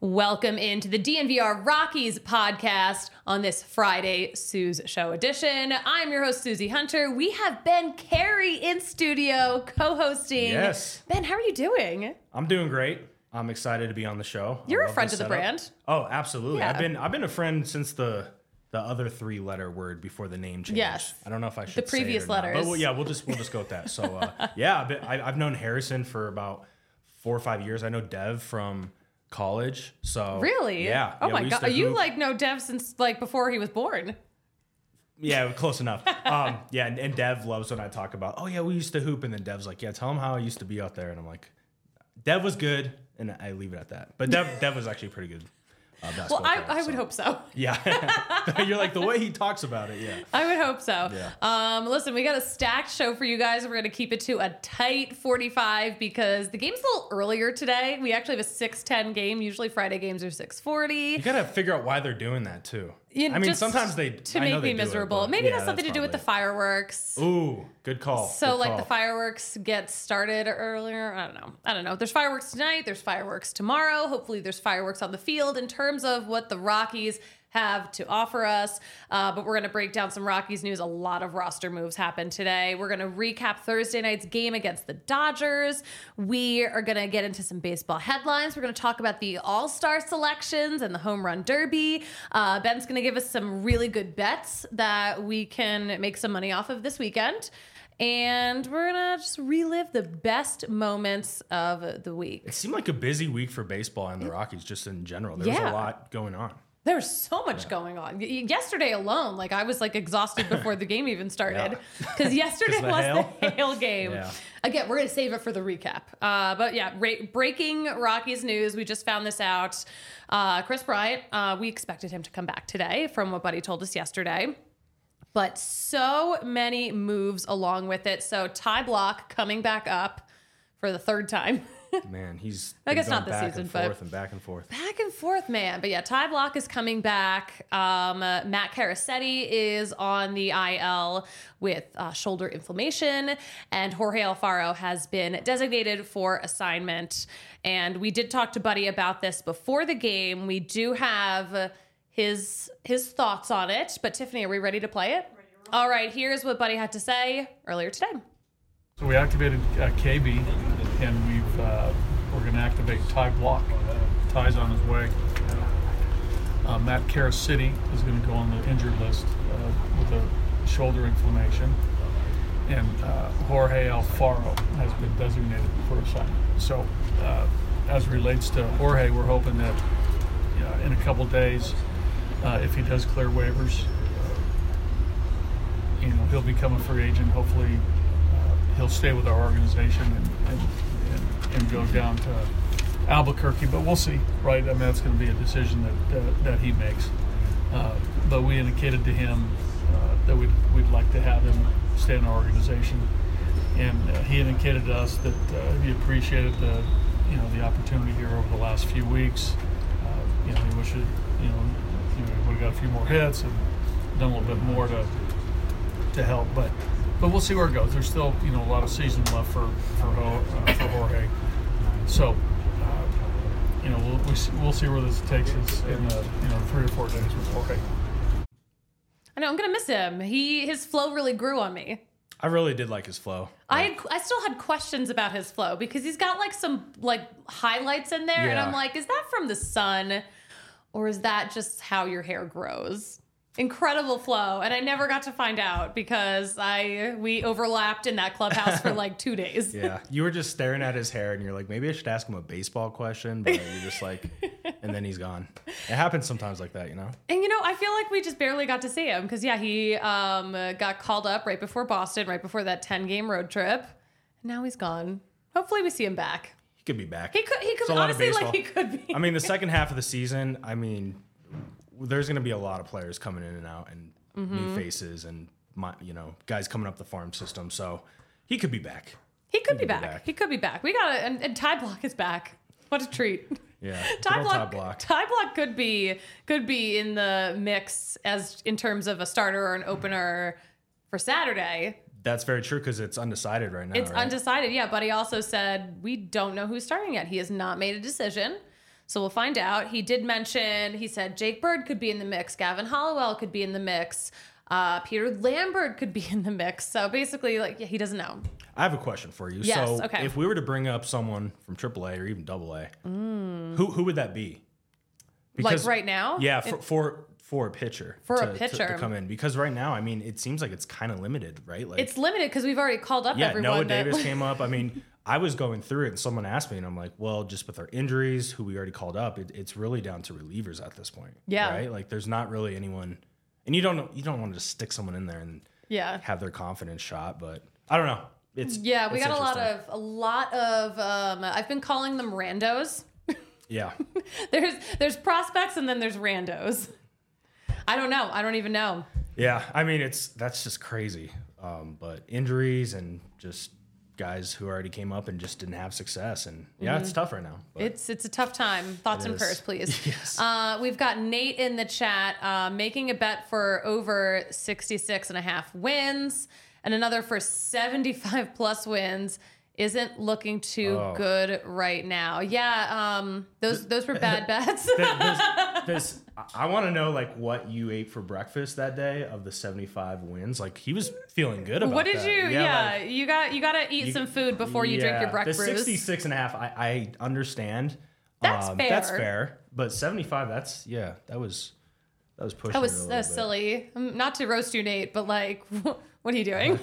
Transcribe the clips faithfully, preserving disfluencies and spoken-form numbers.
Welcome into the D N V R Rockies podcast on this Friday Sue's Show edition. I'm your host, Susie Hunter. We have Ben Carey in studio co-hosting. Yes. Ben, how are you doing? I'm doing great. I'm excited to be on the show. You're a friend of the brand. Oh, absolutely. Yeah. I've been I've been a friend since the the other three letter word before the name change. Yes. I don't know if I should The previous say it or not, letters. but well, yeah, we'll just we'll just go with that. So uh, yeah, I've, been, I, I've known Harrison for about four or five years. I know Dev from college. So Really? Yeah. Oh yeah, my we used God. to You hoop. like know Dev since like before he was born. Yeah, close enough. Um, yeah, and, and Dev loves when I talk about, oh yeah, we used to hoop, and then Dev's like, yeah, tell him how I used to be out there, and I'm like, Dev was good, and I leave it at that. But Dev, Dev was actually pretty good. Uh, Well, I, player, I so. would hope so. Yeah, you're like the way he talks about it. Yeah. I would hope so. Yeah. Um, listen, we got a stacked show for you guys. We're going to keep it to a tight forty-five because the game's a little earlier today. We actually have a six ten game. Usually Friday games are six forty. You gotta figure out why they're doing that too. You- I mean, just sometimes they to I make know me they do it, miserable. but Maybe it yeah, has something to that's do with the probably- fireworks. Ooh, good call. So good like call. the fireworks get started earlier. I don't know. I don't know. There's fireworks tonight. There's fireworks tomorrow. Hopefully there's fireworks on the field in terms of what the Rockies have to offer us. Uh, but we're going to break down some Rockies news. A lot of roster moves happened today. We're going to recap Thursday night's game against the Dodgers. We are going to get into some baseball headlines. We're going to talk about the All-Star selections and the Home Run Derby. Uh, Ben's going to give us some really good bets that we can make some money off of this weekend. And we're going to just relive the best moments of the week. It seemed like a busy week for baseball and the Rockies just in general. There was Yeah. a lot going on. There's so much going on. Y- Yesterday alone, like I was like exhausted before the game even started because yesterday 'Cause the was hail? the hail game. Yeah. Again, we're gonna save it for the recap. Uh, but yeah, ra- breaking Rockies news. We just found this out. Uh, Chris Bryant. Uh, we expected him to come back today, from what Buddy told us yesterday. But so many moves along with it. So Ty Block coming back up for the third time. Man, he's I been guess going not this back season, and but- forth and back and forth. Back and forth, man. But yeah, Ty Block is coming back. Um, uh, Matt Carasetti is on the I L with uh, shoulder inflammation. And Jorge Alfaro has been designated for assignment. And we did talk to Buddy about this before the game. We do have his his thoughts on it. But Tiffany, are we ready to play it? All right, here's what Buddy had to say earlier today. So we activated uh, K B, and we've uh, we're going to activate Ty Block. Ty's on his way. Uh, Matt Carasetti is going to go on the injured list uh, with a shoulder inflammation, and uh, Jorge Alfaro has been designated for assignment. So, uh, as relates to Jorge, we're hoping that uh, in a couple days, uh, if he does clear waivers, uh, you know, he'll become a free agent. Hopefully, he'll stay with our organization and, and, and, and go down to Albuquerque, but we'll see, right? I mean, that's going to be a decision that uh, that he makes. Uh, but we indicated to him uh, that we'd, we'd like to have him stay in our organization, and uh, he indicated to us that uh, he appreciated the you know the opportunity here over the last few weeks. Uh, you know, he wished it, you know, you know, would have got a few more hits and done a little bit more to to help, but. But we'll see where it goes. There's still, you know, a lot of season left for for, Ho, uh, for Jorge. So, uh, you know, we'll we see, we'll see where this takes us in uh, you know three or four days with Jorge. I know I'm gonna miss him. He his flow really grew on me. I really did like his flow. I had, I still had questions about his flow because he's got like some like highlights in there, and Yeah. I'm like, is that from the sun, or is that just how your hair grows? Incredible flow, and I never got to find out because I we overlapped in that clubhouse for like two days. Yeah, you were just staring at his hair, and you're like, maybe I should ask him a baseball question, but you're just like, and then he's gone. It happens sometimes like that, you know. And you know, I feel like we just barely got to see him because yeah, he um, uh, got called up right before Boston, right before that ten game road trip, and now he's gone. Hopefully, we see him back. He could be back. He could. He It's could a lot of honestly like baseball. he could be. I mean, the second half of the season, I mean, there's going to be a lot of players coming in and out, and Mm-hmm. new faces, and my, you know, guys coming up the farm system. So he could be back. He could be He'll be back. back. He could be back. We got it. And, and Ty Block is back. What a treat. Yeah, Ty good old Block, Ty Block. Ty Block could be could be in the mix as in terms of a starter or an opener for Saturday. That's very true because it's undecided right now. It's right? undecided, yeah. But he also said we don't know who's starting yet. He has not made a decision. So we'll find out. He did mention, he said Jake Bird could be in the mix. Gavin Hollowell could be in the mix. Uh, Peter Lambert could be in the mix. So basically, like, yeah, he doesn't know. I have a question for you. Yes, so okay. if we were to bring up someone from triple A or even double A, Mm. who who would that be? Like right now? Yeah, for for, for a pitcher. For to, a to- pitcher. To, come in. Because right now, I mean, it seems like it's kind of limited, right? Like It's limited because we've already called up yeah, everyone. Noah that- Davis came up. I mean, I was going through it and someone asked me and I'm like, well, just with our injuries, who we already called up, it, it's really down to relievers at this point. Yeah. Right? Like there's not really anyone, and you don't you don't want to just stick someone in there and Yeah. have their confidence shot, but I don't know. It's Yeah, we it's got a lot interesting. of a lot of um I've been calling them randos. Yeah. there's there's prospects and then there's randos. I don't know. I don't even know. Yeah. I mean, it's that's just crazy. Um, but injuries and just guys who already came up and just didn't have success, and yeah, it's tough right now. But It's it's a tough time. Thoughts It and is. prayers, please. Yes. Uh, we've got Nate in the chat uh, making a bet for over sixty-six and a half wins and another for seventy-five plus wins. Isn't looking too Oh. good right now. Yeah, um, those those were bad bets. there's, there's, I want to know like what you ate for breakfast that day of the seventy-five wins. Like he was feeling good about What did that. you? Yeah, like, you got you got to eat you- some food before you drink yeah, your breakfast. The sixty-six and a half, I, I understand. That's Um, That's fair. fair. But seventy-five, that's, yeah, that was, that was pushing That it a was little uh, bit. silly. Um, Not to roast you, Nate, but like, what are you doing?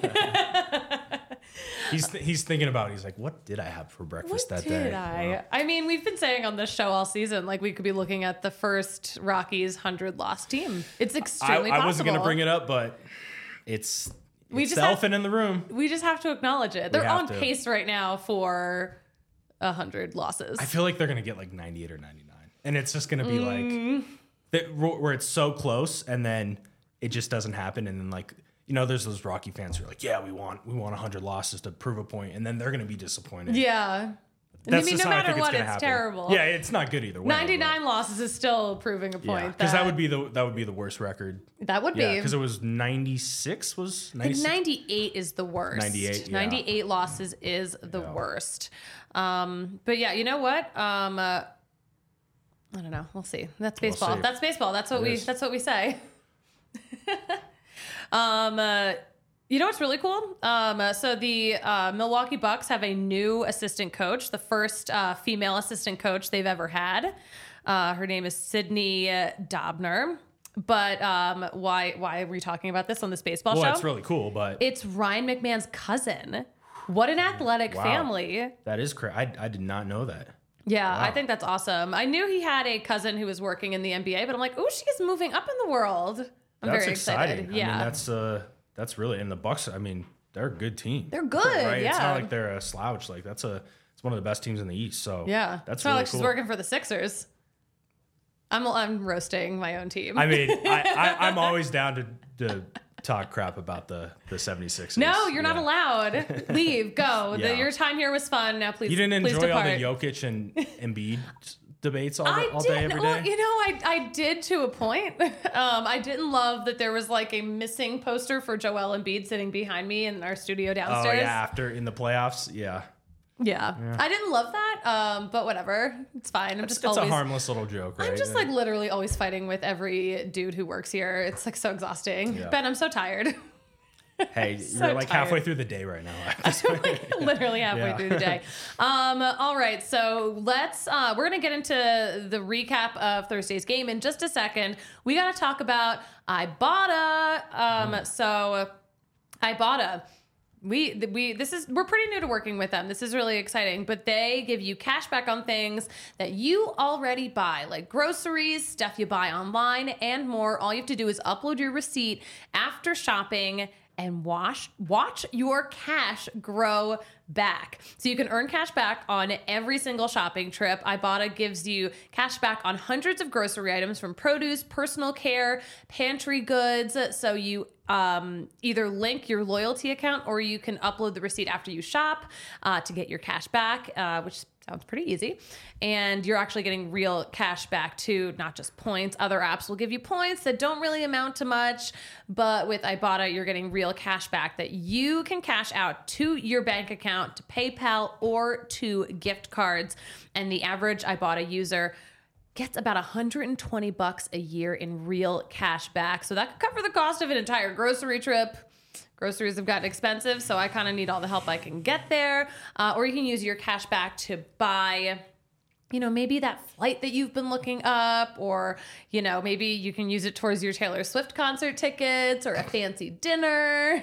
He's, th- he's thinking about it. He's like, what did I have for breakfast What that did day? I? Well, I mean, we've been saying on this show all season, like we could be looking at the first Rockies hundred loss team. It's I, extremely I wasn't going to possible. bring it up, but it's, We it's just the have- elephant in the room. We just have to acknowledge it. They're have on to. pace right now for a hundred losses. I feel like they're going to get like ninety-eight or ninety-nine. And it's just going to be Mm. like, that, where it's so close and then it just doesn't happen. And then like, you know, there's those Rocky fans who are like, yeah, we want, we want one hundred losses to prove a point. And then they're going to be disappointed. yeah. That's I mean, just no how I matter think what, gonna it's happen. terrible. Yeah, it's not good either way. ninety-nine losses is still proving a point. Because that would be the that would be the worst record. that would Yeah, be. because it was ninety-six was I think ninety-six. ninety-eight is the worst. ninety-eight, yeah. ninety-eight losses is the Yeah. worst. Um, but yeah, you know what? Um, uh, I don't know. We'll see. That's We'll baseball. see. That's baseball. That's what It we. is. That's what we say. um, uh, you know what's really cool? Um, uh, so the uh, Milwaukee Bucks have a new assistant coach, the first uh, female assistant coach they've ever had. Uh, her name is Sydney Dobner. But um, why? Why are we talking about this on this baseball Well, show? it's really cool, but It's Ryan McMahon's cousin. What an athletic Wow. family. that is crazy. I, I did not know that. Yeah, I Wow. think that's awesome. I knew he had a cousin who was working in the N B A, but I'm like, oh, she is moving up in the world. I'm That's very exciting. excited. I Yeah. mean, that's uh, that's really and the Bucks. I mean, they're a good team. They're good, right? It's yeah. not like they're a slouch. Like that's a it's one of the best teams in the East. So yeah. that's it's not really like cool. she's working for the Sixers. I'm I'm roasting my own team. I mean, I, I, I'm always down to, to talk crap about the the seventy-sixers. no, you're not Yeah. allowed. Leave. Go. The, Yeah. your time here was fun. Now please. You didn't please enjoy all depart. the Jokic and Embiid debates all, I the, all did. day, every day? Well, you know, I I did to a point. Um, I didn't love that there was like a missing poster for Joel Embiid sitting behind me in our studio oh, downstairs. yeah, after in the playoffs. Yeah. Yeah. I didn't love that, um, but whatever. It's fine. I'm It's, just it's always. a harmless little joke, right? I'm just like literally always fighting with every dude who works here. It's like so exhausting. Yeah. Ben, I'm so tired. hey, so you're like tired. halfway through the day right now. I'm like literally halfway Yeah. through the day. Um, all right, so let's. Uh, we're gonna get into the recap of Thursday's game in just a second. We got to talk about Ibotta. Um, Mm. so Ibotta. We we this is we're pretty new to working with them. This is really exciting, but they give you cash back on things that you already buy, like groceries, stuff you buy online, and more. All you have to do is upload your receipt after shopping and watch watch your cash grow back. So you can earn cash back on every single shopping trip. Ibotta gives you cash back on hundreds of grocery items from produce, personal care, pantry goods. So you um, either link your loyalty account or you can upload the receipt after you shop uh, to get your cash back, uh, which sounds pretty easy. And you're actually getting real cash back too, not just points. Other apps will give you points that don't really amount to much, but with Ibotta, you're getting real cash back that you can cash out to your bank account, to PayPal, or to gift cards. And the average Ibotta user gets about one hundred twenty bucks a year in real cash back. So that could cover the cost of an entire grocery trip. Groceries have gotten expensive, so I kind of need all the help I can get there. Uh, or you can use your cash back to buy, you know, maybe that flight that you've been looking up, or, you know, maybe you can use it towards your Taylor Swift concert tickets or a fancy dinner.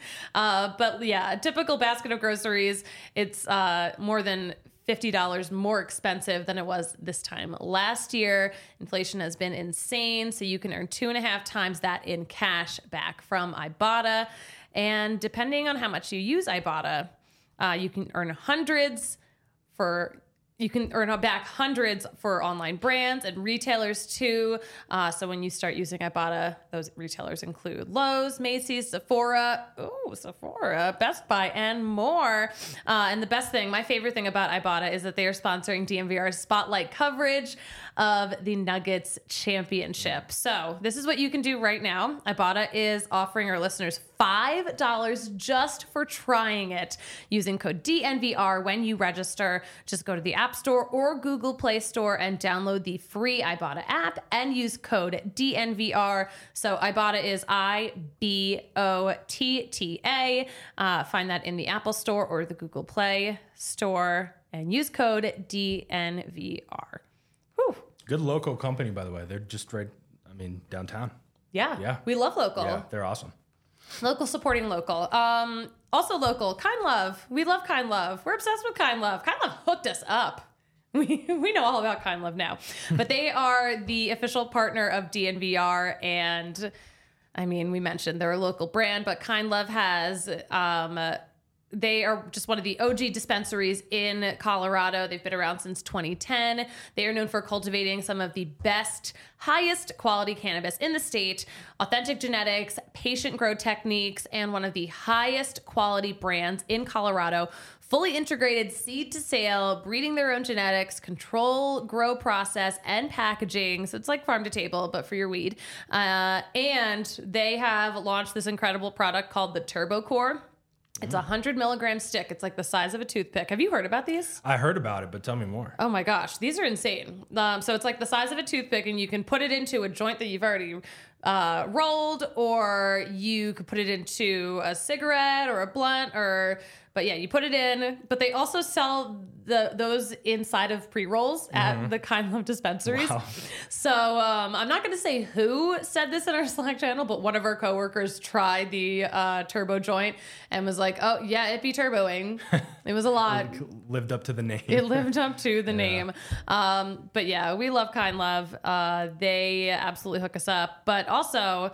uh, but yeah, a typical basket of groceries, it's uh, more than fifty dollars more expensive than it was this time last year. Inflation has been insane, so you can earn two and a half times that in cash back from Ibotta. And depending on how much you use Ibotta, uh, you can earn hundreds for... You can earn back hundreds for online brands and retailers too. Uh, so when you start using Ibotta, those retailers include Lowe's, Macy's, Sephora, ooh, Sephora, Best Buy, and more. Uh, and the best thing, my favorite thing about Ibotta is that they are sponsoring D M V R's spotlight coverage of the Nuggets championship. So this is what you can do right now. Ibotta is offering our listeners five dollars just for trying it using code D N V R when you register. Just go to the App Store or Google Play Store and download the free Ibotta app and use code D N V R. So Ibotta is I B O T T A. Uh, find that in the Apple Store or the Google Play Store and use code D N V R. Whew. Good local company, by the way. They're just right, I mean, downtown. Yeah. Yeah. We love local. Yeah, they're awesome. Local supporting local. Um, also local, Kind Love. We love Kind Love. We're obsessed with Kind Love. Kind Love hooked us up. We we know all about Kind Love now. But they are the official partner of D N V R. And I mean, we mentioned they're a local brand, but Kind Love has... Um, They are just one of the O G dispensaries in Colorado. They've been around since twenty ten. They are known for cultivating some of the best, highest quality cannabis in the state, authentic genetics, patient grow techniques, and one of the highest quality brands in Colorado. Fully integrated seed to sale, breeding their own genetics, control, grow process, and packaging. So it's like farm to table, but for your weed. Uh, and they have launched this incredible product called the Turbo Core. It's a one hundred milligram stick. It's like the size of a toothpick. Have you heard about these? I heard about it, but tell me more. Oh my gosh, these are insane. Um, so it's like the size of a toothpick, and you can put it into a joint that you've already uh, rolled, or you could put it into a cigarette or a blunt, or but yeah, you put it in. But they also sell the those inside of pre-rolls at mm-hmm. the Kind Love dispensaries. Wow. So um, I'm not going to say who said this in our Slack channel, but one of our coworkers tried the uh, turbo joint and was like, "Oh yeah, it be turboing." It was a lot. Lived up to the name. It lived up to the yeah. name. Um, but yeah, we love Kind Love. Uh, they absolutely hook us up. But also,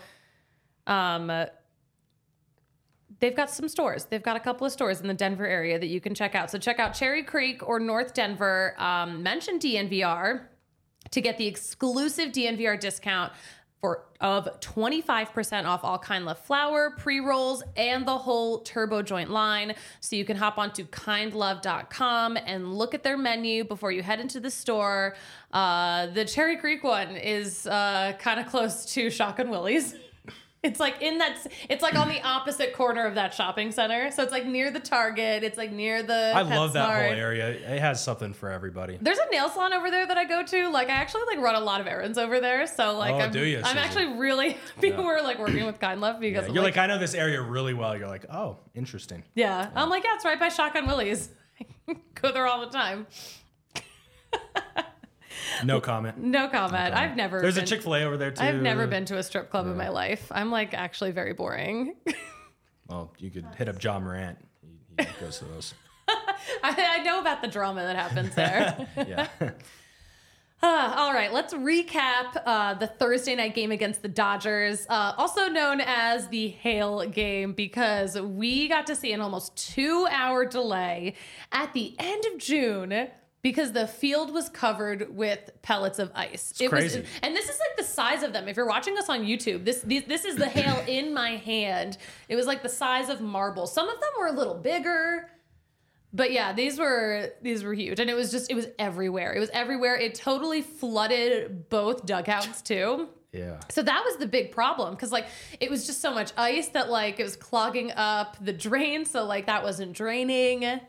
um, they've got some stores. They've got a couple of stores in the Denver area that you can check out. So check out Cherry Creek or North Denver. Um, mention D N V R to get the exclusive D N V R discount for of twenty-five percent off all Kind Love flower, pre-rolls, and the whole Turbo Joint line. So you can hop onto kind love dot com and look at their menu before you head into the store. Uh, the Cherry Creek one is uh, kind of close to Shotgun Willie's. It's like in that, it's like on the opposite corner of that shopping center. So it's like near the Target. It's like near the I love that PetSmart. whole area. It has something for everybody. There's a nail salon over there that I go to. Like I actually like run a lot of errands over there. So like Oh, I'm, do you, I'm Susan? actually really happy Yeah. we're like working with Kind Love because Yeah, I'm you're like, like, I know this area really well. You're like, oh, interesting. yeah. I'm like, yeah, it's right by Shotgun Willie's. Go there all the time. No comment. No comment. No I've never There's been, a Chick-fil-A over there too. I've never been to a strip club in my life. I'm like actually very boring. Well, you could hit up John Morant. He, he goes to those. I, I know about the drama that happens there. Yeah. Uh, all right, let's recap uh, the Thursday night game against the Dodgers, uh, also known as the Hail game, because we got to see an almost two-hour delay at the end of June because the field was covered with pellets of ice. It's it crazy. Was, and this is like the size of them. If you're watching us on YouTube, this this, this is the hail in my hand. It was like the size of marbles. Some of them were a little bigger. But yeah, these were these were huge, and it was just it was everywhere. It was everywhere. It totally flooded both dugouts too. Yeah. So that was the big problem because like it was just so much ice that like it was clogging up the drain. So like that wasn't draining.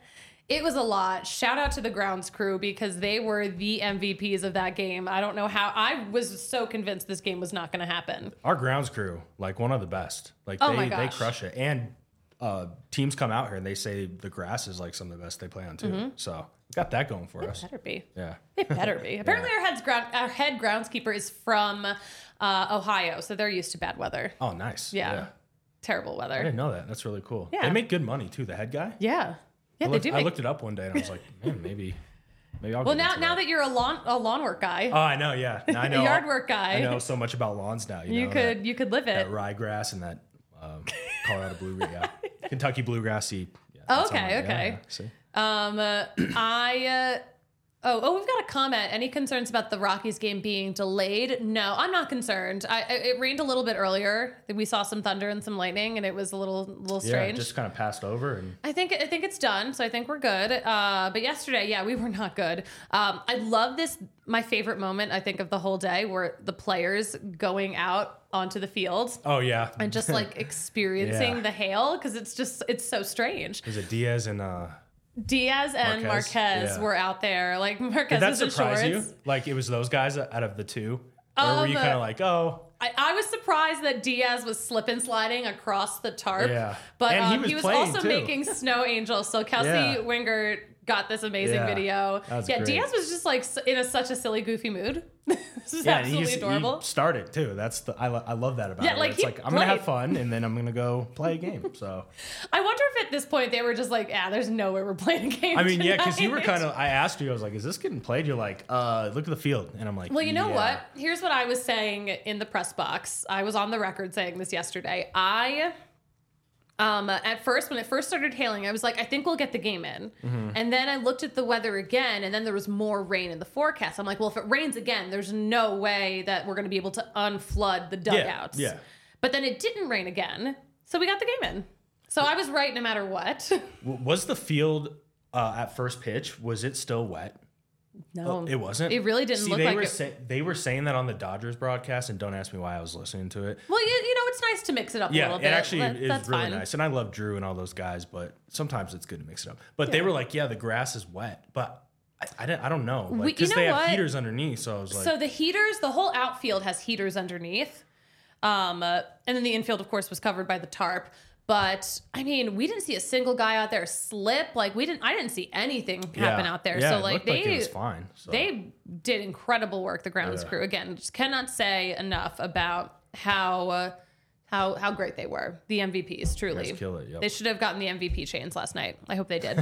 It was a lot. Shout out to the grounds crew because they were the M V Ps of that game. I don't know how. I was so convinced this game was not going to happen. Our grounds crew, like one of the best. Like Oh they, my they gosh. crush it. And uh, teams come out here and they say the grass is like some of the best they play on too. Mm-hmm. So we got that going for us. Better be. Yeah. It better be. Apparently, our head's ground, our head groundskeeper is from uh, Ohio, so they're used to bad weather. Oh, nice. Yeah. Terrible I weather. didn't know that. That's really cool. Yeah. They make good money too. The head guy. Yeah. Yeah, I they looked, do. I Make, looked it up one day and I was like, man, maybe, maybe I'll. well, get now into now that. that you're a lawn a lawn work guy, Oh, I know. Yeah. Now I know. yard work guy, I know so much about lawns now. You, you know, could that, you could live it. that ryegrass and that um, Colorado bluegrass, yeah, Kentucky bluegrass seed. Yeah, Oh, that's on okay, my- okay. Yeah, yeah. See? Um, uh, I, uh, oh, oh, we've got a comment. Any concerns about the Rockies game being delayed? No, I'm not concerned. I, I- it rained a little bit earlier. We saw some thunder and some lightning, and it was a little, little Yeah, strange. it just kind of passed over and. I think I think it's done, so I think we're good. Uh, but yesterday, yeah, we were not good. Um, I love this. My favorite moment, I think, of the whole day were the players going out onto the field Oh yeah. and just like experiencing Yeah. the hail because it's just it's so strange. Is it Diaz and uh? Diaz and Marquez? Marquez Yeah. were out there. Like Marquez Did that was in surprise you? shorts. Like it was those guys out of the two, or were you Um, kind of like, oh, I, I was surprised that Diaz was slip and sliding across the tarp. Yeah. But And he um, was he was playing, also too. making snow angels. So Kelsey Yeah. Wingert got this amazing Yeah. video. That's yeah, great. Diaz was just like s- in a, such a silly, goofy mood. This is yeah, and absolutely he's, adorable. he started too. That's the I, lo- I love that about Yeah, it. like, It's he like I'm gonna have played. fun and then I'm gonna go play a game. So I wonder if at this point they were just like, ah, there's no way we're playing a game. I mean, yeah, because you were tonight." kind of. I asked you, I was like, "Is this getting played?" You're like, "Uh, look at the field," and I'm like, Well, you know yeah. what? Here's what I was saying in the press box. I was on the record saying this yesterday. I, um, at first, when it first started hailing, I was like, I think we'll get the game in. Mm-hmm. And then I looked at the weather again, and then there was more rain in the forecast. I'm like, well, if it rains again, there's no way that we're going to be able to unflood the dugouts. yeah. But then it didn't rain again, so we got the game in. So I was right no matter what. W- Was the field uh, at first pitch? Was it still wet? No, It wasn't. It really didn't See, look they like were it. say- they were saying that on the Dodgers broadcast, and don't ask me why I was listening to it. Well, you, you know, it's nice to mix it up a Yeah, little it bit. actually That- is that's really fine. nice, and I love Drew and all those guys, but sometimes it's good to mix it up. But they were like, "Yeah, the grass is wet," but I I, didn't, I don't know We- you because know they have what? heaters underneath. So I was like, So the heaters, the whole outfield has heaters underneath. Um, uh, and then the infield, of course, was covered by the tarp. But I mean, we didn't see a single guy out there slip. Like we didn't, I didn't see anything happen yeah, out there. Yeah, so it like looked they, like it was fine. So. they did incredible work. The grounds Yeah. crew again, just cannot say enough about how uh, how how great they were. The M V Ps, truly. Guys kill it, yep. They should have gotten the M V P chains last night. I hope they did.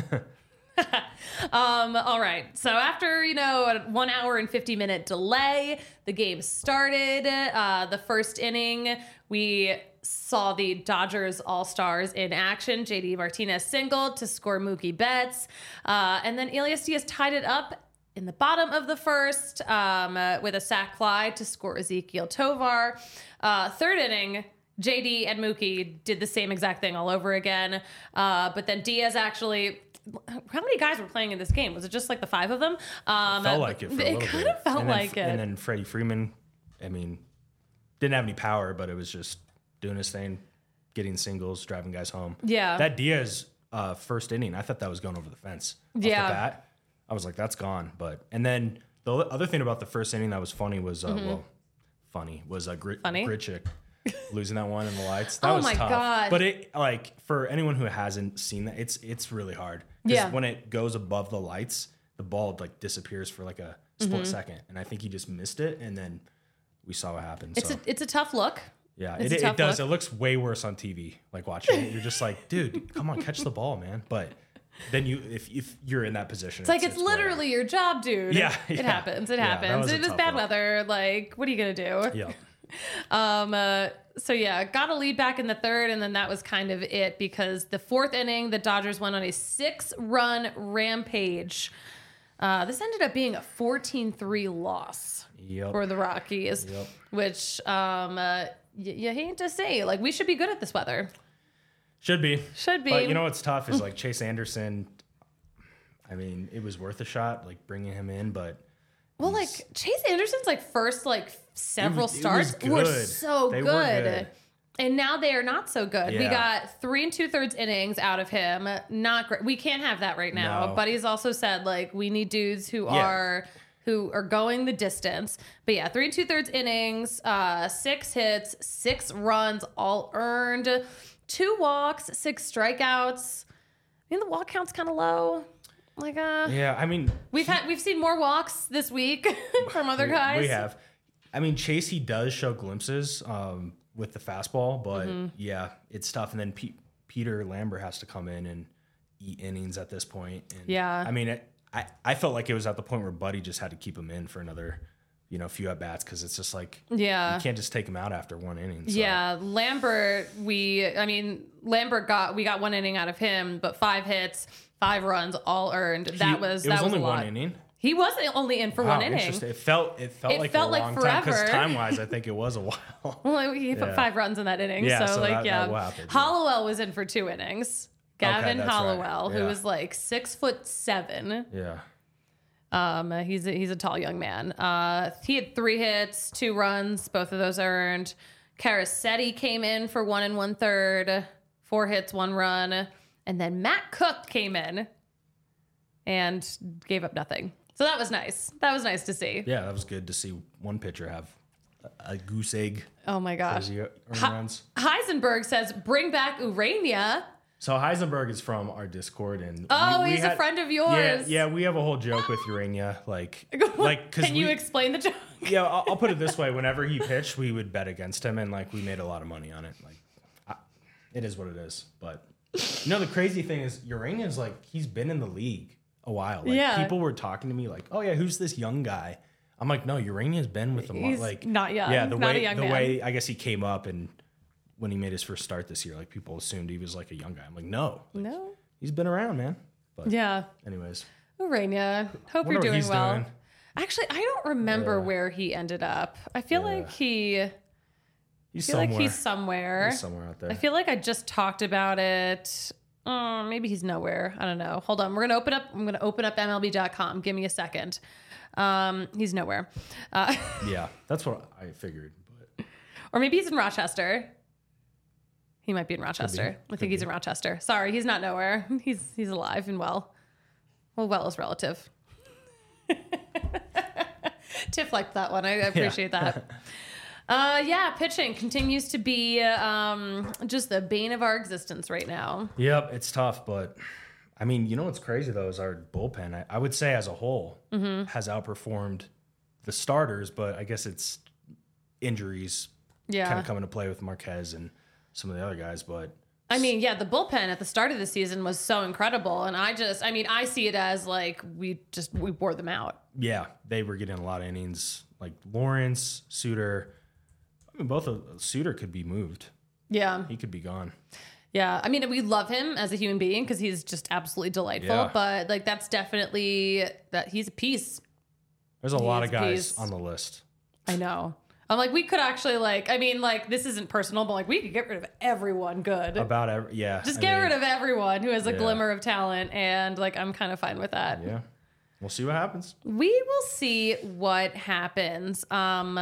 um, all right. So after, you know, a one hour and fifty minute delay, the game started. Uh, the first inning, we saw the Dodgers All-Stars in action. J D Martinez singled to score Mookie Betts. Uh, and then Elias Diaz tied it up in the bottom of the first um, uh, with a sac fly to score Ezekiel Tovar. Uh, third inning, J D and Mookie did the same exact thing all over again. Uh, but then Diaz actually... How many guys were playing in this game? Was it just like the five of them? Um, felt like it for a it little kind bit. of felt and then, like it. And then Freddie Freeman, I mean, didn't have any power, but it was just doing his thing, getting singles, driving guys home. Yeah. That Diaz uh, first inning, I thought that was going over the fence. Off Yeah. the bat. I was like, that's gone. But and then the other thing about the first inning that was funny was, uh, well, funny was uh, Grit, Mm-hmm. Funny? Gritchick losing that one in the lights. That Oh was my tough. God. But it like for anyone who hasn't seen that, it's it's really hard. Because Yeah. when it goes above the lights, the ball like disappears for like a split second, and I think he just missed it, and then we saw what happened. It's so a it's a tough look. yeah, it's it, a tough it does. look. It looks way worse on T V. Like watching it, you're just like, dude, come on, catch the ball, man. But then you, if if you're in that position, It's like it's, literally your job, dude. Yeah, it yeah. happens. It Yeah, that happens. was a It was tough bad one. weather. Like, what are you gonna do? Yeah. Um, uh, so yeah, got a lead back in the third, and then that was kind of it because the fourth inning, the Dodgers went on a six-run rampage. Uh, this ended up being a fourteen three loss Yep. for the Rockies, Yep. which um, uh, y- you hate to say, like we should be good at this weather. Should be. Should be. But you know what's tough is like Chase Anderson. I mean, it was worth a shot, like bringing him in, but Well, like Chase Anderson's like first like several It was- it starts was were good. so They good. were good. And now they are not so good. We Yeah. got three and two thirds innings out of him. Not great. We can't have that right now. No. But he's also said like we need dudes who Yeah. are who are going the distance. But yeah, three and two thirds innings, uh, six hits, six runs, all earned, two walks, six strikeouts. I mean the walk count's kind of low. Like uh, Yeah, I mean, we've had we've seen more walks this week from other we, guys. we have. I mean, Chase, he does show glimpses um, with the fastball, but Mm-hmm. yeah, it's tough. And then P- Peter Lambert has to come in and eat innings at this point. And Yeah. I mean, it, I, I felt like it was at the point where Buddy just had to keep him in for another, you know, few at bats because it's just like, Yeah. you can't just take him out after one inning. So. Yeah, Lambert, we, I mean, Lambert got, we got one inning out of him, but five hits, five runs, all earned. He- That was, it that was was only a lot. one inning. He wasn't only in for Wow, one inning. interesting. It felt it felt It like felt a like long time because forever. time wise, I think it was a while. Well, he put Yeah. five runs in that inning. Yeah, so, so like, that- yeah. that will happen, yeah. Hollowell was in for two innings. Gavin that's right. Hollowell, who Yeah. was like six foot seven. Yeah. Um, he's a, he's a tall young man. Uh, he had three hits, two runs, both of those earned. Carasetti came in for one and one third, four hits, one run, and then Matt Cook came in and gave up nothing. So that was nice. That was nice to see. Yeah, that was good to see one pitcher have a, a goose egg Oh my gosh. as he earned Hi- runs. Heisenberg says, "Bring back Urania." So Heisenberg is from our Discord, and Oh, we- we he's a had- friend of Yeah, yours. yeah, we have a whole joke with Urania, like, like because Can you explain the joke? yeah, I'll, I'll put it this way: whenever he pitched, we would bet against him, and like we made a lot of money on it. Like, I, it is what it is. But you know, the crazy thing is, Urania's like he's been in the league a while. Like, Yeah. people were talking to me like, "Oh yeah, who's this young guy?" I'm like, "No, Urania's been with the mo- He's like not young. Yeah, the Not a way young the man. way I guess he came up and when he made his first start this year, like people assumed he was like a young guy. I'm like, no, No. he's been around, man. But Yeah. anyways, Urania. Hope wonder you're what doing he's well. doing. Actually, I don't remember Yeah. where he ended up. I feel Yeah. like he I he's feel somewhere. like he's somewhere. He's somewhere out there. I feel like I just talked about it. Uh, maybe he's nowhere. I don't know. Hold on. We're gonna open up. I'm gonna open up M L B dot com. Give me a second. Um, he's nowhere. Uh, yeah, that's what I figured. But or maybe he's in Rochester. He might be in Rochester. I Could think he's in Rochester. Sorry, he's not nowhere. He's he's alive and well. Well, well is relative. Tiff liked that one. I appreciate that. Uh, yeah, pitching continues to be um, just the bane of our existence right now. yep, it's tough. But I mean, you know what's crazy though is our bullpen. I, I would say as a whole Mm-hmm. has outperformed the starters, but I guess it's injuries Yeah. kind of come into play with Marquez and some of the other guys. But I mean, yeah, the bullpen at the start of the season was so incredible. And I just, I mean, I see it as like we just, we wore them out. yeah, they were getting a lot of innings. Like Lawrence, Suter. I mean, both of Suter could be moved. Yeah. He could be gone. Yeah. I mean, we love him as a human being because he's just absolutely delightful. Yeah. But like, that's definitely that he's a piece. There's a lot He's of guys piece. on the list. I know. I'm like, we could actually like, I mean, like, this isn't personal, but like, we could get rid of everyone good. About every, yeah. Just I get mean, rid of everyone who has a yeah. glimmer of talent. And like, I'm kind of fine with that. Yeah. We'll see what happens. We will see what happens. Um,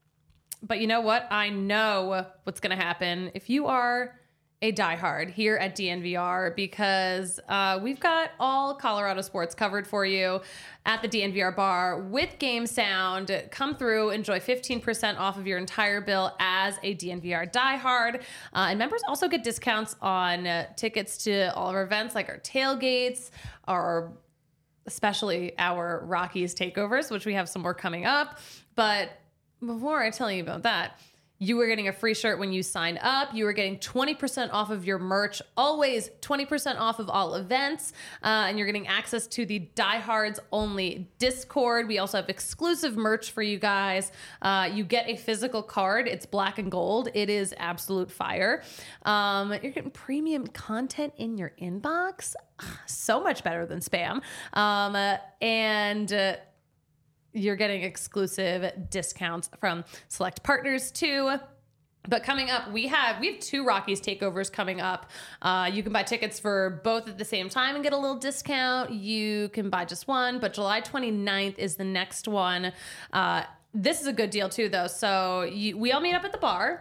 but you know what? I know what's going to happen if you are a diehard here at D N V R because uh, we've got all Colorado sports covered for you at the D N V R bar with Game Sound. Come through, enjoy fifteen percent off of your entire bill as a D N V R diehard. Uh, and members also get discounts on uh, tickets to all of our events like our tailgates, our especially our Rockies takeovers, which we have some more coming up. But before I tell you about that, you were getting a free shirt when you sign up. You were getting twenty percent off of your merch, always twenty percent off of all events. Uh, and you're getting access to the Diehards Only Discord. We also have exclusive merch for you guys. Uh, you get a physical card. It's black and gold. It is absolute fire. Um, you're getting premium content in your inbox. So much better than spam. Um, uh, and... Uh, You're getting exclusive discounts from select partners too. But coming up, we have we have two Rockies takeovers coming up. Uh, you can buy tickets for both at the same time and get a little discount. You can buy just one, but July twenty-ninth is the next one. Uh, this is a good deal too, though. So you, we all meet up at the bar.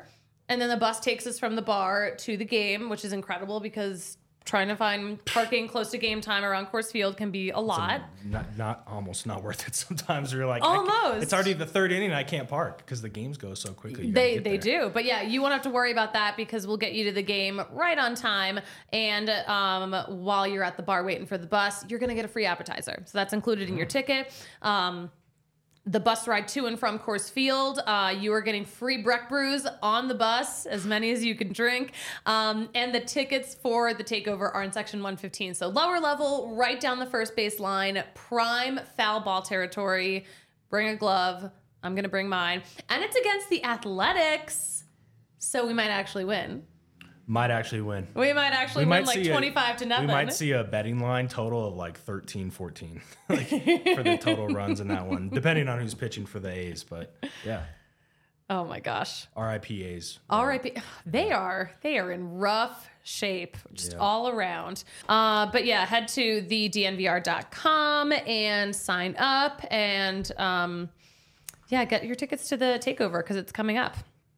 and then the bus takes us from the bar to the game, which is incredible because trying to find parking close to game time around Coors Field can be a lot. Not, not almost not worth it. Sometimes you're like, I Almost. can't- it's already the third inning and I can't park because the games go so quickly. You gotta They get they there. do, but yeah, you won't have to worry about that because we'll get you to the game right on time. And um, while you're at the bar waiting for the bus, you're gonna get a free appetizer, so that's included in your ticket. Um, the bus ride to and from Coors Field, uh, you are getting free Breck brews on the bus, as many as you can drink. Um, and the tickets for the takeover are in section one fifteen, so lower level, right down the first base line, prime foul ball territory. Bring a glove. I'm gonna bring mine, and it's against the Athletics, so we might actually win. Might actually win. We might actually We win might like see a- twenty-five to nothing. We might see a betting line total of like thirteen, fourteen like for the total runs in that one, depending on who's pitching for the A's. But yeah, Oh my gosh. R I P A's. R I P They are they are in rough shape just Yeah. all around. Uh, but yeah, head to the d n v r dot com and sign up and um, yeah, get your tickets to the takeover because it's coming up.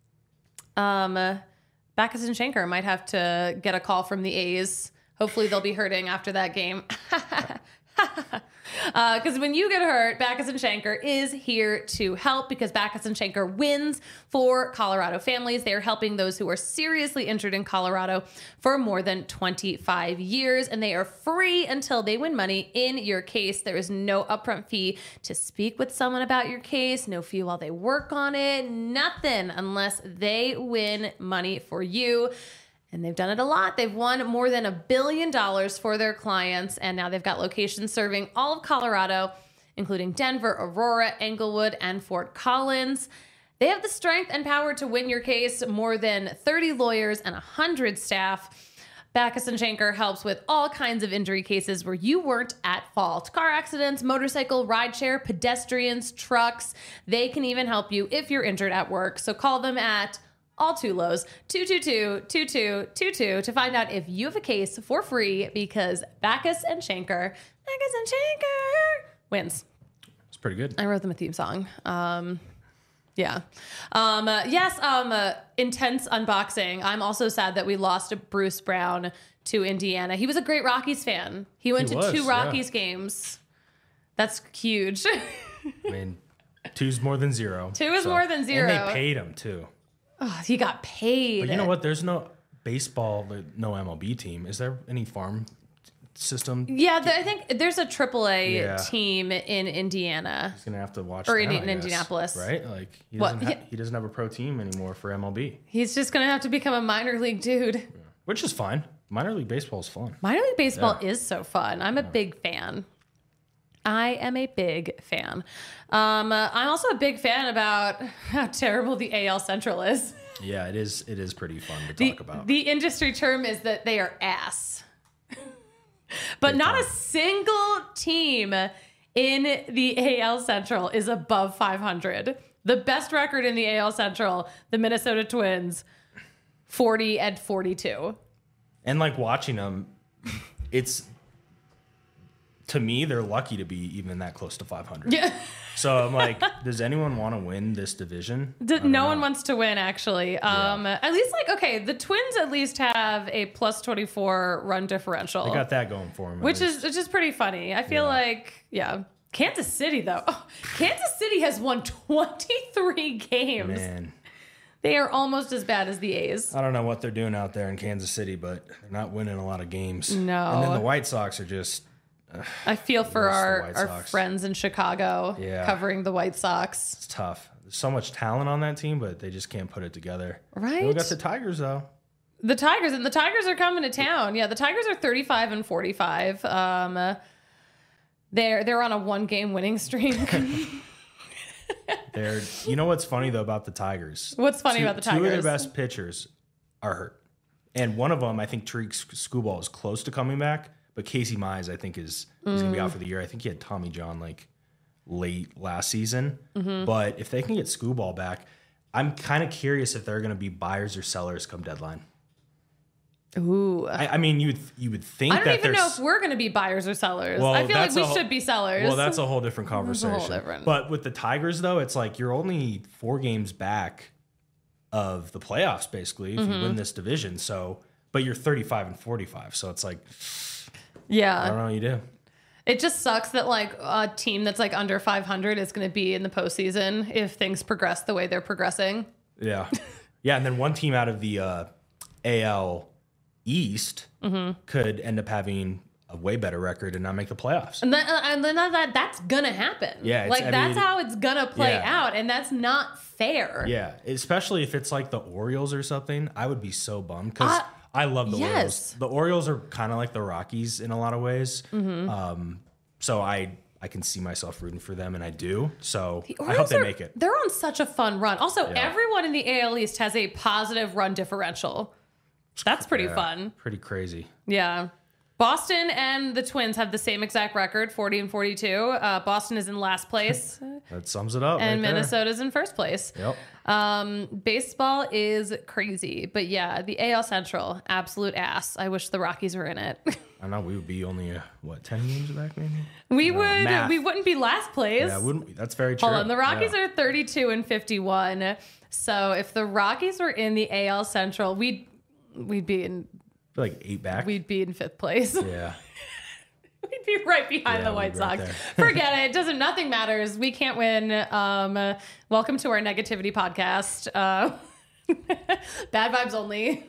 Um, Backus and Schenker might have to get a call from the A's. Hopefully they'll be hurting after that game. Because uh, when you get hurt, Backus and Schenker is here to help because Backus and Schenker wins for Colorado families. They are helping those who are seriously injured in Colorado for more than twenty-five years, and they are free until they win money in your case. There is no upfront fee to speak with someone about your case, no fee while they work on it, nothing unless they win money for you. And they've done it a lot. They've won more than a billion dollars for their clients. And now they've got locations serving all of Colorado, including Denver, Aurora, Englewood, and Fort Collins. They have the strength and power to win your case. More than thirty lawyers and one hundred staff. Backus and Schenker helps with all kinds of injury cases where you weren't at fault. Car accidents, motorcycle, rideshare, pedestrians, trucks. They can even help you if you're injured at work. So call them at all too lows, two two two, two two two two to find out if you have a case for free because Backus and Schenker, Backus and Schenker wins. It's pretty good. I wrote them a theme song. Um, yeah. Um, uh, yes, um, uh, intense unboxing. I'm also sad that we lost Bruce Brown to Indiana. He was a great Rockies fan. He went He to was, two yeah. Rockies games. That's huge. I mean, two's more than zero. Two is more than zero. And they paid him too. Oh, he got paid. But you know what? There's no baseball, like, no M L B team. Is there any farm system? Yeah, the, I think there's a triple A Yeah. team in Indiana. He's gonna have to watch. Or them, in- I in guess, Indianapolis. right? Like he What? doesn't, ha- Yeah. he doesn't have a pro team anymore for M L B, He's just going to have to become a minor league dude. which is fine. Minor league baseball is fun. Minor league baseball Yeah. is so fun. I'm a big fan. I am a big fan. Um, uh, I'm also a big fan about how terrible the A L Central is. Yeah, it is. It is pretty fun to The, talk about. the industry term is that they are ass. But not a single team in the A L Central is above five hundred. The best record in the A L Central, the Minnesota Twins, forty and forty-two. And like watching them, it's to me they're lucky to be even that close to five hundred. Yeah. So I'm like, does anyone want to win this division? D- I don't no know. one wants to win, actually. Um, At least, like, okay, the Twins at least have a plus twenty-four run differential, They got that going for them, which is which is pretty funny. I feel Yeah. like, yeah. Kansas City, though. Oh, Kansas City has won twenty-three games. man. They are almost as bad as the A's. I don't know what they're doing out there in Kansas City, but they're not winning a lot of games. No. And then the White Sox are just I feel for Worse, the our, White our Sox. friends in Chicago Yeah. covering the White Sox. it's tough. There's so much talent on that team, but they just can't put it together. Right? We got the Tigers though. The Tigers, and the Tigers are coming to town. Yeah, the Tigers are thirty-five and forty-five. Um, uh, they're they're on a one game winning streak. They're you know what's funny though about the Tigers? What's funny Two- about the Two of Tigers? their best pitchers are hurt, and one of them, I think Tariq Skubal is close to coming back, but Casey Mize, I think, is is gonna be Mm. out for the year. I think he had Tommy John like late last season, Mm-hmm. but if they can get Skubal back, I'm kind of curious if they're gonna be buyers or sellers come deadline. Ooh. I, I mean, you would you would think I don't that even know there's if we're going to be buyers or sellers. Well, I feel like that's we a whole- should be sellers. Well, that's a whole different That's a conversation. whole different- But with the Tigers, though, it's like you're only four games back of the playoffs, basically, if Mm-hmm. you win this division. So, but you're thirty-five and forty-five. So it's like, Yeah. I don't know what you do. It just sucks that like a team that's like under five hundred is going to be in the postseason if things progress the way they're progressing. Yeah. Yeah. And then one team out of the uh, A L East Mm-hmm. could end up having a way better record and not make the playoffs. And then, uh, and then that that's going to happen. Yeah, it's- Like I that's mean- how it's going to play Yeah. out. And that's not fair. Yeah. Especially if it's like the Orioles or something. I would be so bummed because Uh, I love the yes. Orioles. The Orioles are kind of like the Rockies in a lot of ways. Mm-hmm. Um, so I I can see myself rooting for them, and I do. So The I hope Orioles they are- make it. They're on such a fun run. Also, Yeah. everyone in the A L East has a positive run differential. That's pretty Yeah, fun. Pretty crazy. Yeah. Boston and the Twins have the same exact record, forty and forty-two. Uh, Boston is in last place, That sums it up. and right there. Minnesota's in first place. Yep. Um, baseball is crazy, but yeah, the A L Central, absolute ass. I wish the Rockies were in it. I know we would be only uh, what ten games back, maybe. we No, would, math. we wouldn't be last place. Yeah, wouldn't we? That's very true. Hold on, the Rockies Yeah. are thirty-two and fifty-one. So if the Rockies were in the A L Central, we'd we'd be in We're like eight back. we'd be in fifth place. yeah. We'd be right behind Yeah, the White we'd be right Sox. there. Forget it. It doesn't. Nothing matters. We can't win. Um, uh, welcome to our negativity podcast. Uh, bad vibes only.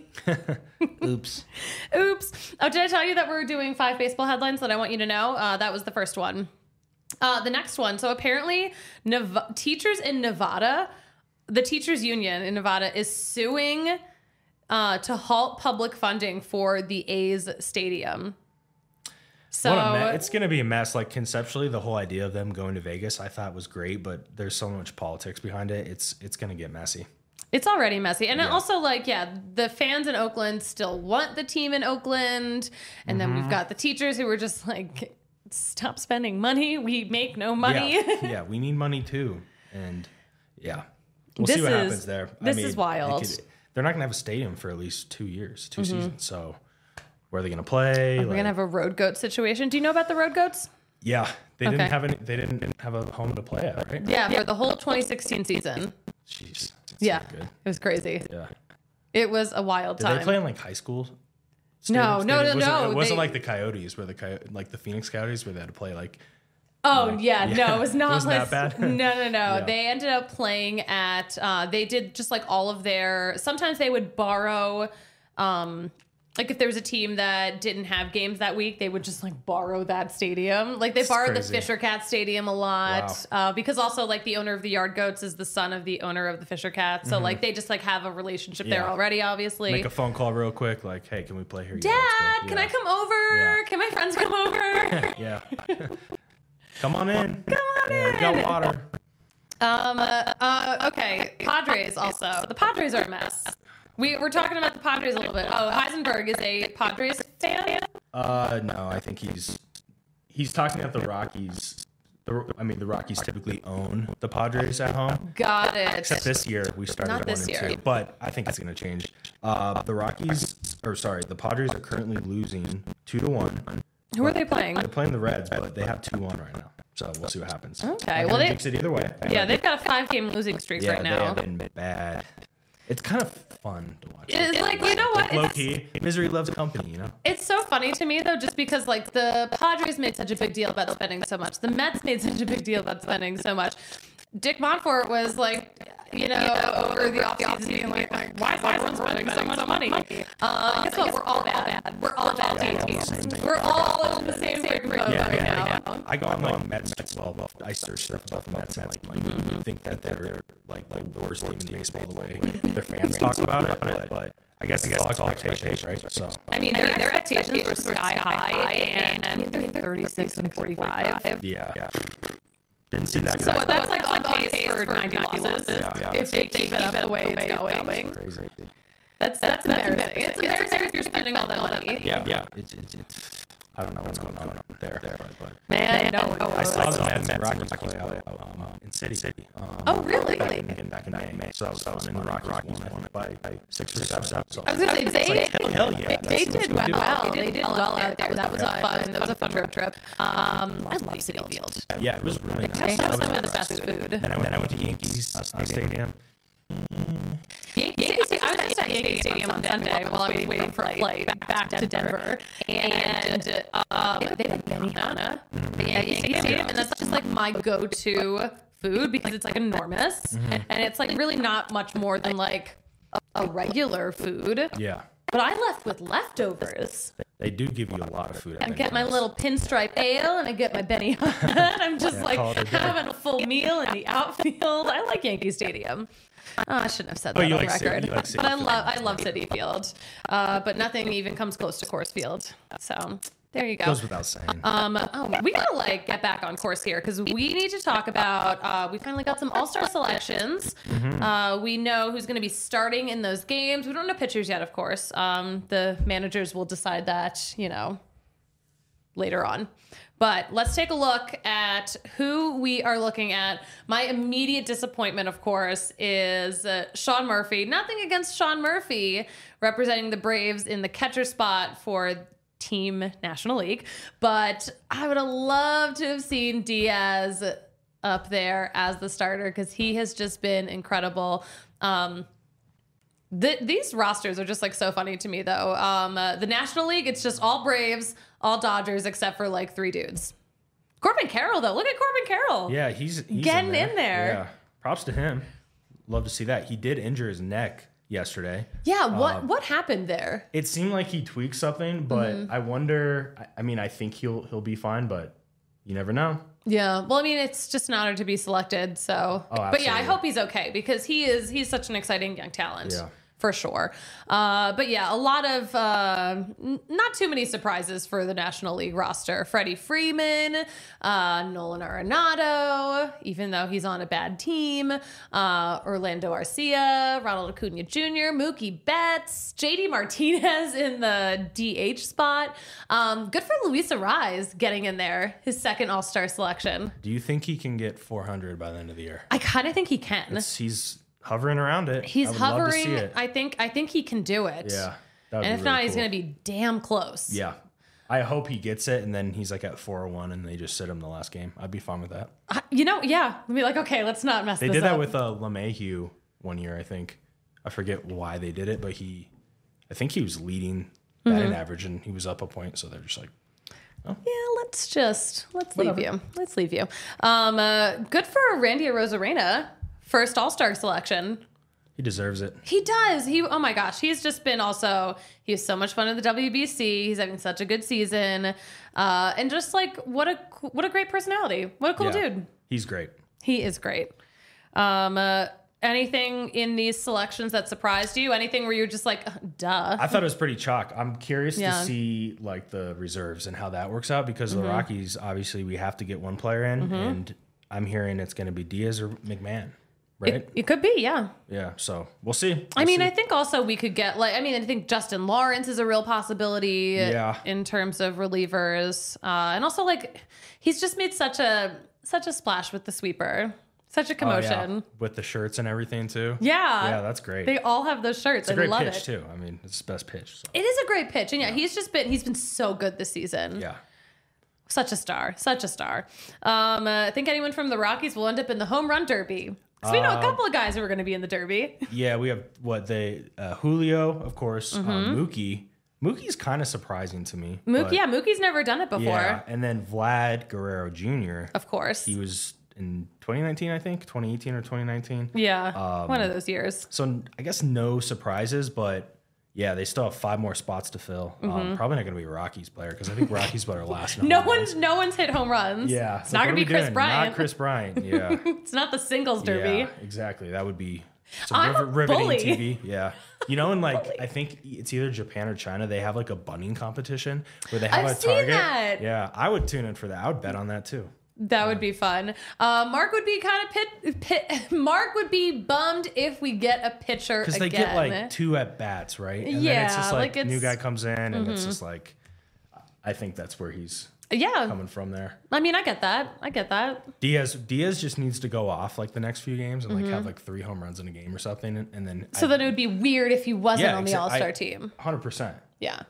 Oops. Oops. Oh, did I tell you that we're doing five baseball headlines that I want you to know? Uh, that was the first one. Uh, the next one. So apparently, Nev- teachers in Nevada, the teachers union in Nevada is suing uh, to halt public funding for the A's stadium. So What a me- it's going to be a mess. Like conceptually, the whole idea of them going to Vegas, I thought was great, but there's so much politics behind it. It's it's going to get messy. it's already messy. And Yeah. also, like, yeah, the fans in Oakland still want the team in Oakland. And then Mm-hmm. we've got the teachers who were just like, stop spending money. We make no money. Yeah, yeah, we need money too, and yeah, we'll This see what is- happens there. this is it wild. could- they're not going to have a stadium for at least two years, two seasons. So where are they going to play? We're going to have a road goat situation. Do you know about the road goats? yeah, they Okay. didn't have any. They didn't have a home to play at, right? Yeah, for the whole twenty sixteen season. Jeez. that's Yeah. not good. It was crazy. Yeah. It was a wild Did time. they play in like high school? No, stadiums? no, They- no, it wasn't, no, It wasn't they- like the Coyotes, where the Coy- like the Phoenix Coyotes, where they had to play like. Oh Like, yeah, yeah. no, it was not. Wasn't that like- bad? No, no, no. Yeah. They ended up playing at. Uh, they did just like all of their. Sometimes they would borrow. Um, like if there was a team that didn't have games that week, they would just like borrow that stadium. Like they It's borrowed crazy. the Fisher Cat Stadium a lot Wow. uh, because also like the owner of the Yard Goats is the son of the owner of the Fisher Cat, so like they just like have a relationship there Mm-hmm. Yeah. already. Obviously, Make a phone call real quick, like, "Hey, can we play here?" Dad, Yeah, let's go. can Yeah. I come over? Yeah. Can my friends come over? Yeah. Come on in. Come on Yeah, we in. got water. Um. Uh, uh, okay. Padres also. The Padres are a mess. We we're talking about the Padres a little bit. Oh, Heisenberg is a Padres fan. Uh, no, I think he's he's talking about the Rockies. The, I mean, the Rockies typically own the Padres at home. Got it. Except this year we started Not one this and year. two, but I think it's going to change. Uh, the Rockies, or sorry, the Padres are currently losing two to one. Who are they playing? They're playing the Reds, but they have two one right now. So we'll see what happens. Okay, Not well, gonna they- jinx it either way. Yeah, they've got a five-game losing streak yeah, right they now. have been bad. It's kind of fun to watch. It's like, you know what? Like low It's, key, misery loves company. You know. it's so funny to me though, just because like the Padres made such a big deal about spending so much. The Mets made such a big deal about spending so much. Dick Montfort was like, you know, over the offseason being like, like, why is everyone spending so much money? Uh, guess what? We're all bad. We're all bad teams. We're all in the same freaking boat Yeah, right yeah, now. yeah. I go on like Mets baseball. I search stuff about the Mets, and like, like you think that they're like the worst team in baseball the way their fans talk about it, but, but I guess it's all expectations, right? So I mean, their, their expectations were sky high, and they're thirty-six and forty-five. yeah, yeah. Didn't see that. So guy. that's like on pace for ninety losses yeah. if they keep it up the way it's going. Crazy. That's that's embarrassing. It's embarrassing if you're spending all that money. Yeah, yeah. It's, it's, it's I don't know what's going on there, there, but Man, no. I saw the Mets and Rockies play out um, in City City. Um, Oh, really? Back in, back in May. So I was, I was in the Rockies, Rockies won by, by six or seven. So I was gonna say they hell, hell yeah. they That's- did that's what well. we do. They did well out there. That was a fun. That was a fun road trip. Um, I love City Field. Yeah, it was really nice. They I have was some of the impressed. best food. Then I went, then I went to Yankees uh, Stadium. Yankees was at Yankee Stadium on Sunday while I was waiting for a flight back to Denver, and um, they had Benihana at Yankee Stadium, and that's just like my go-to food because it's like enormous, mm-hmm. and it's like really not much more than like a regular food. Yeah. But I left with leftovers. They do give you a lot of food. I get my little pinstripe ale and I get my Benihana. And I'm just yeah, like having a full meal in the outfield. I like Yankee Stadium. Oh, I shouldn't have said that oh, on like record. City, like but I love I love City Field. Uh, but nothing even comes close to Coors Field. So there you go. Goes without saying. Um, oh, we gotta like get back on course here because we need to talk about. Uh, we finally got some All-Star selections. Mm-hmm. Uh, we know who's going to be starting in those games. We don't know pitchers yet, of course. Um, the managers will decide that, you know, later on. But let's take a look at who we are looking at. My immediate disappointment, of course, is uh, Sean Murphy. Nothing against Sean Murphy representing the Braves in the catcher spot for Team National League, but I would have loved to have seen Diaz up there as the starter because he has just been incredible. Um, th- these rosters are just like so funny to me though. Um, uh, the National League, it's just all Braves, all Dodgers, except for like three dudes. Corbin Carroll though, look at Corbin Carroll. Yeah, he's, he's getting in there. in there. Yeah, props to him. Love to see that. He did injure his neck yesterday. Yeah, what uh, what happened there? It seemed like he tweaked something, but mm-hmm. I wonder. I, I mean, I think he'll he'll be fine, but you never know. Yeah, well, I mean, it's just an honor to be selected. So, oh, but yeah, I hope he's okay because he is he's such an exciting young talent. Yeah. For sure. Uh, but yeah, a lot of uh, n- not too many surprises for the National League roster. Freddie Freeman, uh, Nolan Arenado, even though he's on a bad team, uh, Orlando Arcia, Ronald Acuna Junior, Mookie Betts, J D Martinez in the D H spot. Um, good for Luis Arraez getting in there, his second All-Star selection. Do you think he can get four hundred by the end of the year? I kind of think he can. It's, he's hovering around it. He's I would hovering. Love to see it. I think. I think he can do it. Yeah. And if really not, cool. he's going to be damn close. Yeah. I hope he gets it, and then he's like at four oh one, and they just sit him the last game. I'd be fine with that. Uh, you know, yeah. I'd be like, okay, let's not mess they this did up. that with uh, LeMahieu one year, I think. I forget why they did it, but he, I think he was leading batting mm-hmm. average, and he was up a point, so they're just like, oh. Yeah, let's just, let's Whatever. leave you. Let's leave you. Um, uh, good for Randy Arozarena, first All-Star selection. He deserves it. He does. He, oh my gosh, he's just been also, he has so much fun in the W B C. He's having such a good season. Uh, and just like, what a, what a great personality. What a cool yeah, dude. He's great. He is great. Um, uh, anything in these selections that surprised you? Anything where you're just like, duh? I thought it was pretty chalk. I'm curious Yeah. to see like the reserves and how that works out because Mm-hmm. the Rockies, obviously we have to get one player in, Mm-hmm. and I'm hearing it's going to be Diaz or McMahon. Right? It, it could be, yeah. Yeah, so we'll see. We'll I mean, see. I think also we could get like, I mean, I think Justin Lawrence is a real possibility Yeah. in terms of relievers. Uh, and also like, he's just made such a, such a splash with the sweeper, such a Oh, commotion. yeah. With the shirts and everything too. Yeah. Yeah, that's great. They all have those shirts. It's a I great love pitch it. too. I mean, it's the best pitch. So. It is a great pitch. And yeah, he's just been, he's been so good this season. Yeah. Such a star, such a star. Um, uh, I think anyone from the Rockies will end up in the home run derby. Because we know a couple of guys who are going to be in the derby. Yeah, we have what they uh, Julio, of course, Mm-hmm. um, Mookie. Mookie's kind of surprising to me. Mookie, but- yeah, Mookie's never done it before. Yeah, and then Vlad Guerrero Junior Of course. He was in twenty nineteen, I think, twenty eighteen or twenty nineteen. Yeah, Um, one of those years. So I guess no surprises, but yeah, they still have five more spots to fill. Um, probably not going to be a Rockies player because I think Rockies player last. in Mm-hmm. No home one's runs. no one's hit home runs. Yeah, it's like, not what gonna are be we Chris doing? Bryant. Not Chris Bryant. Yeah, It's not the singles derby. yeah, exactly. That would be some I'm a rivet- riveting bully. T V. Yeah, you know, and like Bully. I think it's either Japan or China. They have like a bunning competition where they have I've a seen target. that. Yeah, I would tune in for that. I would bet on that too. That would be fun. Uh, Mark would be kind of pit, pit. Mark would be bummed if we get a pitcher Because again. they get like two at bats, right? And then it's Yeah, just like, like new it's- guy comes in, and it's just like, I think that's where he's yeah. coming from there. I mean, I get that. I get that. Diaz Diaz just needs to go off like the next few games and like have like three home runs in a game or something, and, and then Mm-hmm. So I, then it would be weird if he wasn't Yeah, on the exa- All Star I- team. one hundred percent. Yeah.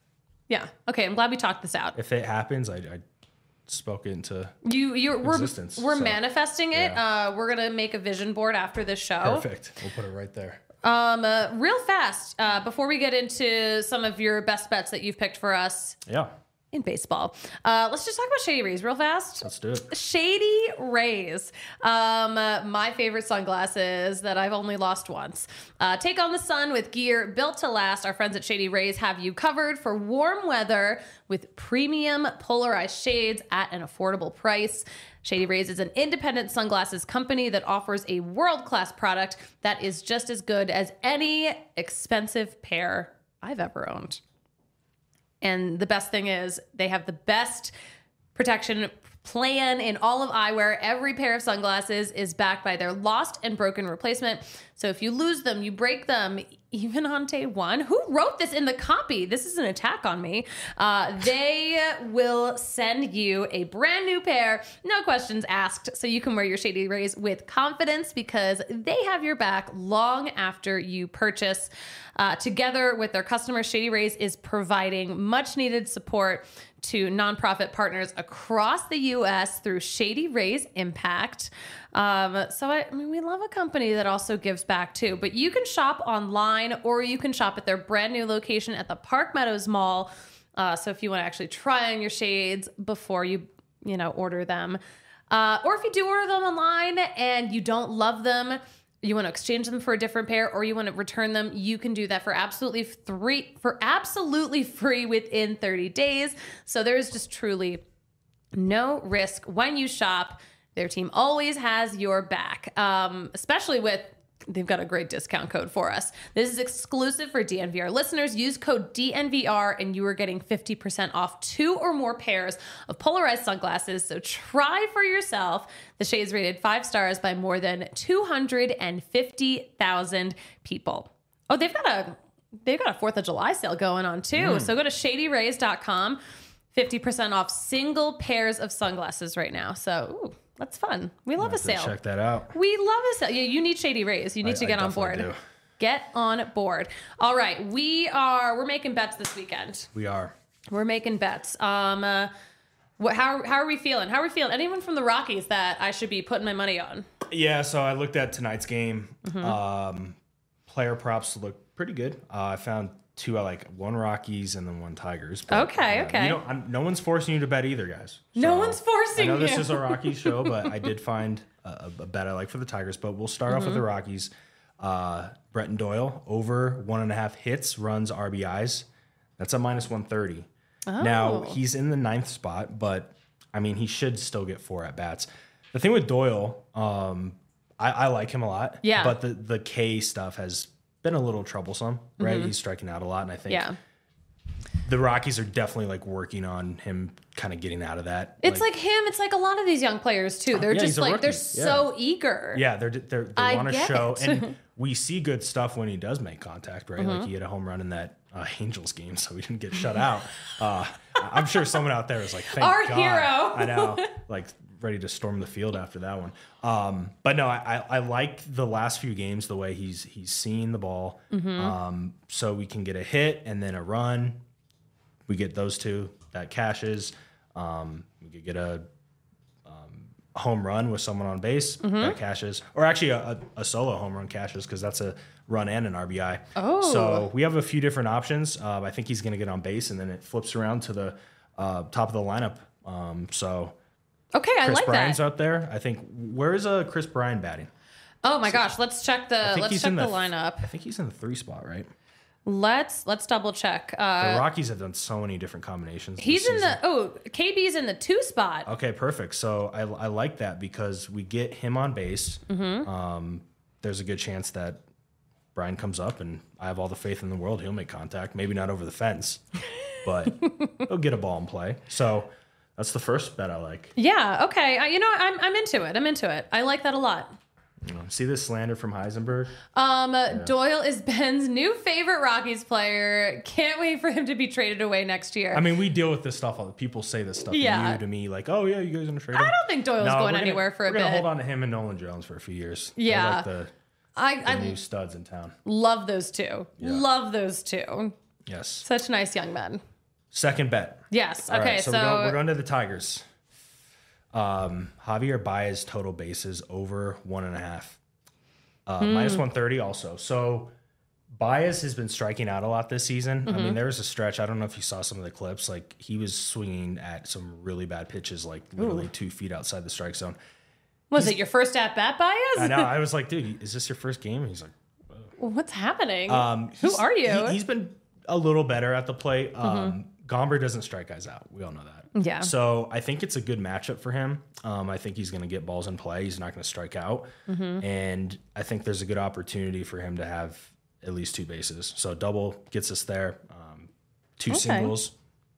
Yeah. Okay. I'm glad we talked this out. If it happens, I, I spoke it into You, you're, we're, existence, we're so, manifesting it. yeah. Uh, we're gonna make a vision board after this show. perfect. We'll put it right there. Um, uh, real fast, uh, before we get into some of your best bets that you've picked for us Yeah, in baseball, uh, let's just talk about Shady Rays real fast. let's do it. Shady Rays. Um, uh, my favorite sunglasses that I've only lost once. Uh, take on the sun with gear built to last. Our friends at Shady Rays have you covered for warm weather with premium polarized shades at an affordable price. Shady Rays is an independent sunglasses company that offers a world-class product that is just as good as any expensive pair I've ever owned. And the best thing is they have the best protection plan in all of eyewear. Every pair of sunglasses is backed by their lost and broken replacement. So if you lose them, you break them, even on day one. Who wrote this in the copy? This is an attack on me. Uh, they will send you a brand new pair, no questions asked, so you can wear your Shady Rays with confidence because they have your back long after you purchase. Uh, together with their customers, Shady Rays is providing much needed support to nonprofit partners across the U S through Shady Rays Impact. Um, so, I, I mean, we love a company that also gives back too. But you can shop online or you can shop at their brand new location at the Park Meadows Mall. Uh, so if you want to actually try on your shades before you, you know, order them. Uh, or if you do order them online and you don't love them, you want to exchange them for a different pair, or you want to return them, you can do that for absolutely free, for absolutely free within thirty days. So there's just truly no risk when you shop. Their team always has your back, um, especially with, they've got a great discount code for us. This is exclusive for D N V R listeners. Use code D N V R and you are getting fifty percent off two or more pairs of polarized sunglasses. So try for yourself. The shades rated five stars by more than two hundred fifty thousand people. Oh, they've got a they've got a fourth of July sale going on too. Mm. So go to shady rays dot com. fifty percent off single pairs of sunglasses right now. So, ooh, that's fun. We love a sale. Check that out. We love a sale. Yeah, you need Shady Rays. You need I, to get I on board. do. Get on board. All right, we are we're making bets this weekend. We are. We're making bets. Um, uh, what? How how are we feeling? How are we feeling? Anyone from the Rockies that I should be putting my money on? Yeah. So I looked at tonight's game. Mm-hmm. Um, player props look pretty good. Uh, I found two I like, one Rockies and then one Tigers. But, okay, uh, okay. You know, I'm, no one's forcing you to bet either, guys. No So, one's forcing I know you. this is a Rockies show, but I did find a, a bet I like for the Tigers. But we'll start mm-hmm. off with the Rockies. Uh, Bretton Doyle over one and a half hits, runs, R B Is. That's a minus one thirty. Oh. Now he's in the ninth spot, but I mean he should still get four at bats. The thing with Doyle, um, I, I like him a lot. Yeah. But the the K stuff has been a little troublesome, right? Mm-hmm. He's striking out a lot, and I think Yeah. the Rockies are definitely like working on him kind of getting out of that. It's like, him. It's like a lot of these young players too. They're Yeah, just he's a like they're rookie. so eager. Yeah, they're, they're, they I want to get show. it. And we see good stuff when he does make contact, right? Mm-hmm. Like he had a home run in that uh, Angels game, so we didn't get shut out. Uh, I'm sure someone out there is like, thank Our God. hero. I know. Like ready to storm the field after that one. Um, but no, I, I, I like the last few games, the way he's he's seeing the ball. Mm-hmm. Um, so we can get a hit and then a run. We get those two. That cashes. Um, we could get a home run with someone on base Mm-hmm. that cashes, or actually a, a, a solo home run cashes because that's a run and an R B I. Oh. So we have a few different options. Um, I think he's going to get on base and then it flips around to the uh, top of the lineup. Um, so Okay, I Chris like Bryant's that. out there. I think where is uh, Chris Bryan batting? Oh my gosh, let's check the I think let's he's check in the the lineup. I think he's in the three spot, right? Let's let's double check. The Uh, Rockies have done so many different combinations. this he's in season. the oh K B's in the two spot. Okay, perfect. So I, I like that because we get him on base. Mm-hmm. Um, there's a good chance that Brian comes up, and I have all the faith in the world he'll make contact. Maybe not over the fence, but he'll get a ball in play. So that's the first bet I like. Yeah. Okay. I, you know I'm I'm into it. I'm into it. I like that a lot. You know, see this slander from Heisenberg? Um, Doyle is Ben's new favorite Rockies player. Can't wait for him to be traded away next year. I mean, we deal with this stuff all the people say this stuff Yeah. to you, to me, like, oh yeah, you guys gonna trade him? I don't think Doyle's No, going we're gonna- anywhere for a We're gonna bit. hold on to him and Nolan Jones for a few years. They're Yeah. like the, I, the I new studs in town. love those two. Yeah. Love those two. Yes. Such nice young men. Second bet. Yes. All Okay. right, so so, we're, going, we're going to the Tigers. Um, Javier Baez total bases over one and a half. Uh, mm. Minus one thirty also. So Baez has been striking out a lot this season. Mm-hmm. I mean, there was a stretch. I don't know if you saw some of the clips. Like, he was swinging at some really bad pitches, like literally Ooh. two feet outside the strike zone. Was he's, it your first at-bat, Baez? I know. I was like, dude, is this your first game? And he's like, Whoa. What's happening? Um, Who are you? He, he's been a little better at the plate. Um, mm-hmm. Gomber doesn't strike guys out. We all know that. Yeah. So I think it's a good matchup for him. Um, I think he's going to get balls in play. He's not going to strike out. Mm-hmm. And I think there's a good opportunity for him to have at least two bases. So double gets us there. Um, two okay. singles.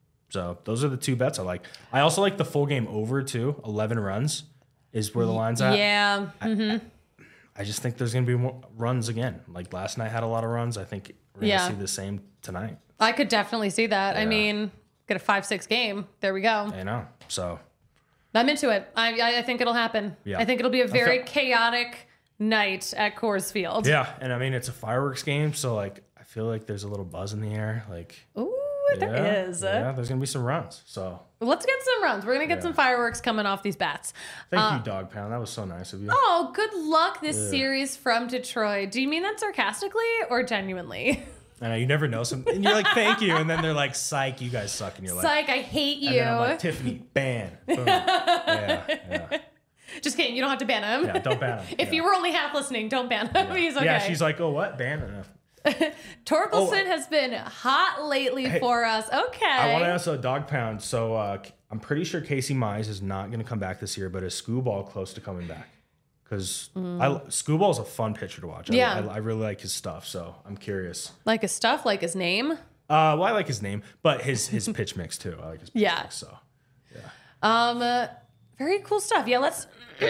So those are the two bets I like. I also like the full game over too. eleven runs is where the line's at. Yeah. Mm-hmm. I, I just think there's going to be more runs again. Like last night had a lot of runs. I think we're going to yeah. see the same tonight. I could definitely see that. Yeah. I mean, get a five six game. There we go. I know. So I'm into it. I I think it'll happen. Yeah. I think it'll be a very chaotic night at Coors Field. Yeah, and I mean it's a fireworks game, so like I feel like there's a little buzz in the air. Like ooh, yeah, there is. Yeah, there's gonna be some runs. So let's get some runs. We're gonna get yeah. some fireworks coming off these bats. Thank uh, you, Dog Pound. That was so nice of you. Oh, good luck this yeah. series from Detroit. Do you mean that sarcastically or genuinely? I know, you never know some, and you're like, thank you, and then they're like, psych, you guys suck, and you're like, psych, I hate you. And then I'm like, Tiffany, ban. Boom. yeah, yeah. Just kidding, you don't have to ban him. Yeah, don't ban him. If yeah. you were only half listening, don't ban him. Yeah. He's okay. Yeah, she's like, oh, what? Ban him. Torkelson oh, has been hot lately hey, for us. Okay. I want to ask a Dog Pound. So uh, I'm pretty sure Casey Mize is not going to come back this year, but is Scooball close to coming back? Because mm. Scooball is a fun pitcher to watch. I, yeah. I, I really like his stuff, so I'm curious. Like his stuff? Like his name? Uh, well, I like his name, but his his pitch mix too. I like his pitch yeah. mix, so yeah. Um, uh, very cool stuff. Yeah, let's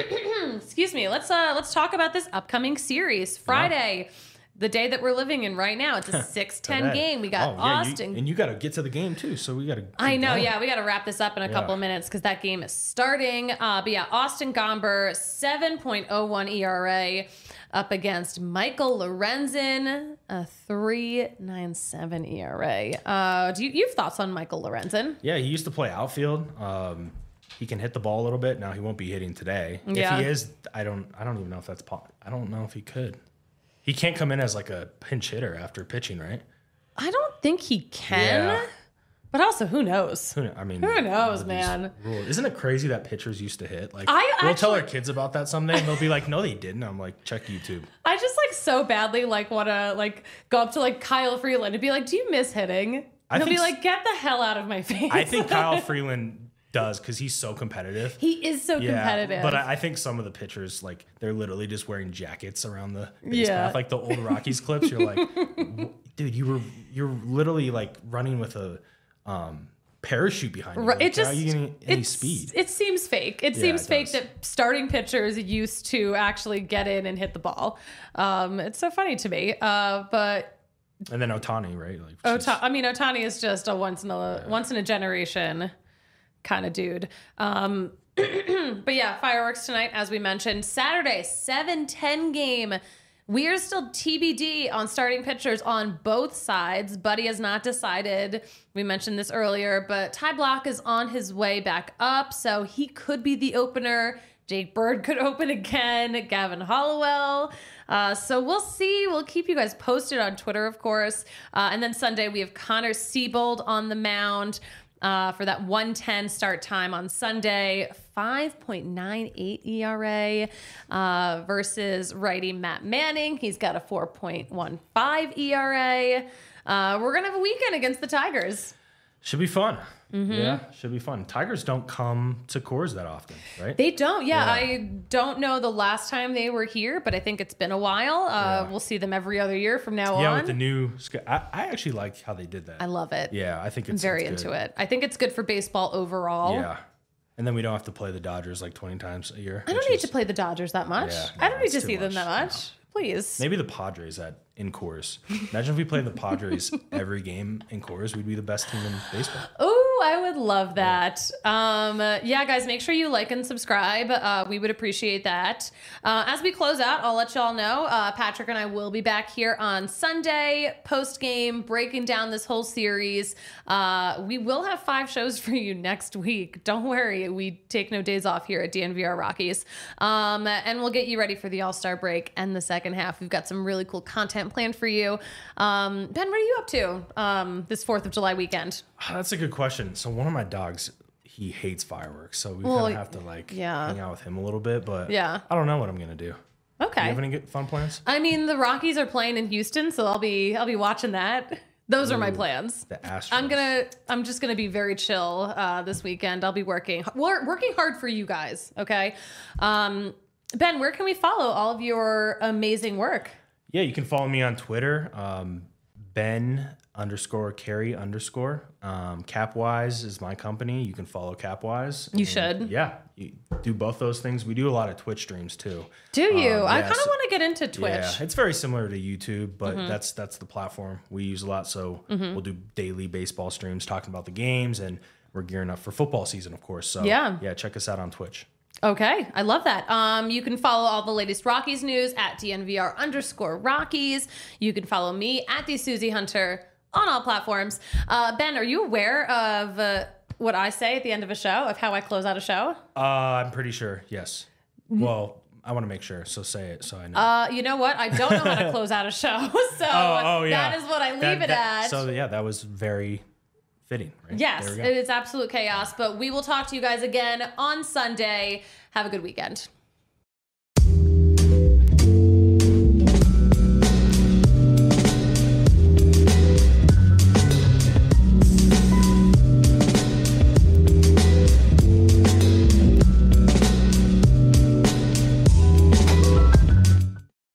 excuse me. Let's uh let's talk about this upcoming series. Friday. Yeah. The day that we're living in right now. It's a six ten game. We got oh, yeah, Austin. You, and you got to get to the game, too. So we got to. I know. Going. Yeah, we got to wrap this up in a yeah. couple of minutes because that game is starting. Uh, but yeah, Austin Gomber, seven point oh one E R A up against Michael Lorenzen, a three point nine seven E R A. Uh, do you, you have thoughts on Michael Lorenzen? Yeah, he used to play outfield. Um, he can hit the ball a little bit. Now he won't be hitting today. Yeah. If he is, I don't. I don't even know if that's. Po- I don't know if he could. He can't come in as like a pinch hitter after pitching, right? I don't think he can. Yeah. But also, who knows? Who, I mean, who knows, man? Rules. Isn't it crazy that pitchers used to hit? Like, I we'll actually, tell our kids about that someday, and they'll be like, "No, they didn't." I'm like, "Check YouTube." I just like so badly like want to like go up to like Kyle Freeland and be like, "Do you miss hitting?" And I he'll think be like, "Get the hell out of my face." I think Kyle Freeland does because he's so competitive. He is so yeah, competitive. But I, I think some of the pitchers, like, they're literally just wearing jackets around the base yeah. path. Like the old Rockies clips, you're like, dude, you were you're literally like running with a um, parachute behind you. Like, it just how are you getting any speed? It seems fake. It yeah, seems it fake that starting pitchers used to actually get in and hit the ball. Um, it's so funny to me. Uh, but and then Ohtani, right? Like, Ota- I mean, Ohtani is just a once in a yeah. once in a generation kind of dude. Um, but yeah, fireworks tonight, as we mentioned. Saturday, seven ten game. We are still T B D on starting pitchers on both sides. Buddy has not decided. We mentioned this earlier, but Ty Blach is on his way back up, so he could be the opener. Jake Bird could open again. Gavin Hollowell. Uh, so we'll see. We'll keep you guys posted on Twitter, of course. Uh, and then Sunday, we have Connor Siebold on the mound. Uh, for that one ten start time on Sunday, five point nine eight E R A uh, versus righty Matt Manning. He's got a four point one five E R A. Uh, we're going to have a weekend against the Tigers. Should be fun. Mm-hmm. Yeah, should be fun. Tigers don't come to Coors that often, right? They don't. Yeah, yeah, I don't know the last time they were here, but I think it's been a while. Uh, yeah. We'll see them every other year from now yeah, on. Yeah, with the new... I, I actually like how they did that. I love it. Yeah, I think it's I'm very it's into it. I think it's good for baseball overall. Yeah. And then we don't have to play the Dodgers like twenty times a year. I don't need is, to play the Dodgers that much. Yeah, no, I don't need to see much. them that much. No. Please. Maybe the Padres at in Coors. Imagine if we played the Padres every game in Coors. We'd be the best team in baseball. Oh, I would love that. Um, yeah, guys, make sure you like and subscribe. Uh, we would appreciate that. Uh, as we close out, I'll let y'all know, uh, Patrick and I will be back here on Sunday, post-game, breaking down this whole series. Uh, we will have five shows for you next week. Don't worry, we take no days off here at D N V R Rockies. Um, and we'll get you ready for the All-Star break and the second half. We've got some really cool content planned for you. Um, Ben, what are you up to um, this fourth of July weekend? That's a good question. So one of my dogs, he hates fireworks, so we Well, kind of have to like yeah. hang out with him a little bit. But Yeah. I don't know what I'm gonna do. Okay. Do you have any good fun plans? I mean, the Rockies are playing in Houston, so I'll be I'll be watching that. Those are my plans. The Astros. I'm gonna I'm just gonna be very chill uh, this weekend. I'll be working wor- working hard for you guys. Okay, um, Ben, where can we follow all of your amazing work? Yeah, you can follow me on Twitter, um, Ben underscore Carey underscore. Um, Capwise is my company. You can follow Capwise. You And, should. Yeah, you do both those things. We do a lot of Twitch streams too. Do you? Um, I yeah, kind of so- want to get into Twitch. Yeah, it's very similar to YouTube, but that's that's the platform we use a lot. So Mm-hmm. we'll do daily baseball streams talking about the games, and we're gearing up for football season, of course. So Yeah. yeah, check us out on Twitch. Okay, I love that. Um, you can follow all the latest Rockies news at D N V R underscore Rockies. You can follow me at the Susie Hunter on all platforms. Uh, Ben, are you aware of uh, what I say at the end of a show, of how I close out a show? Uh, I'm pretty sure. Yes. Well, I want to make sure, so say it so I know. Uh, you know what? I don't know how to close out a show, so oh, oh, yeah. that is what I leave That- it that- at. So yeah, that was very fitting. Right? Yes, There we go. it is absolute chaos, but we will talk to you guys again on Sunday. Have a good weekend.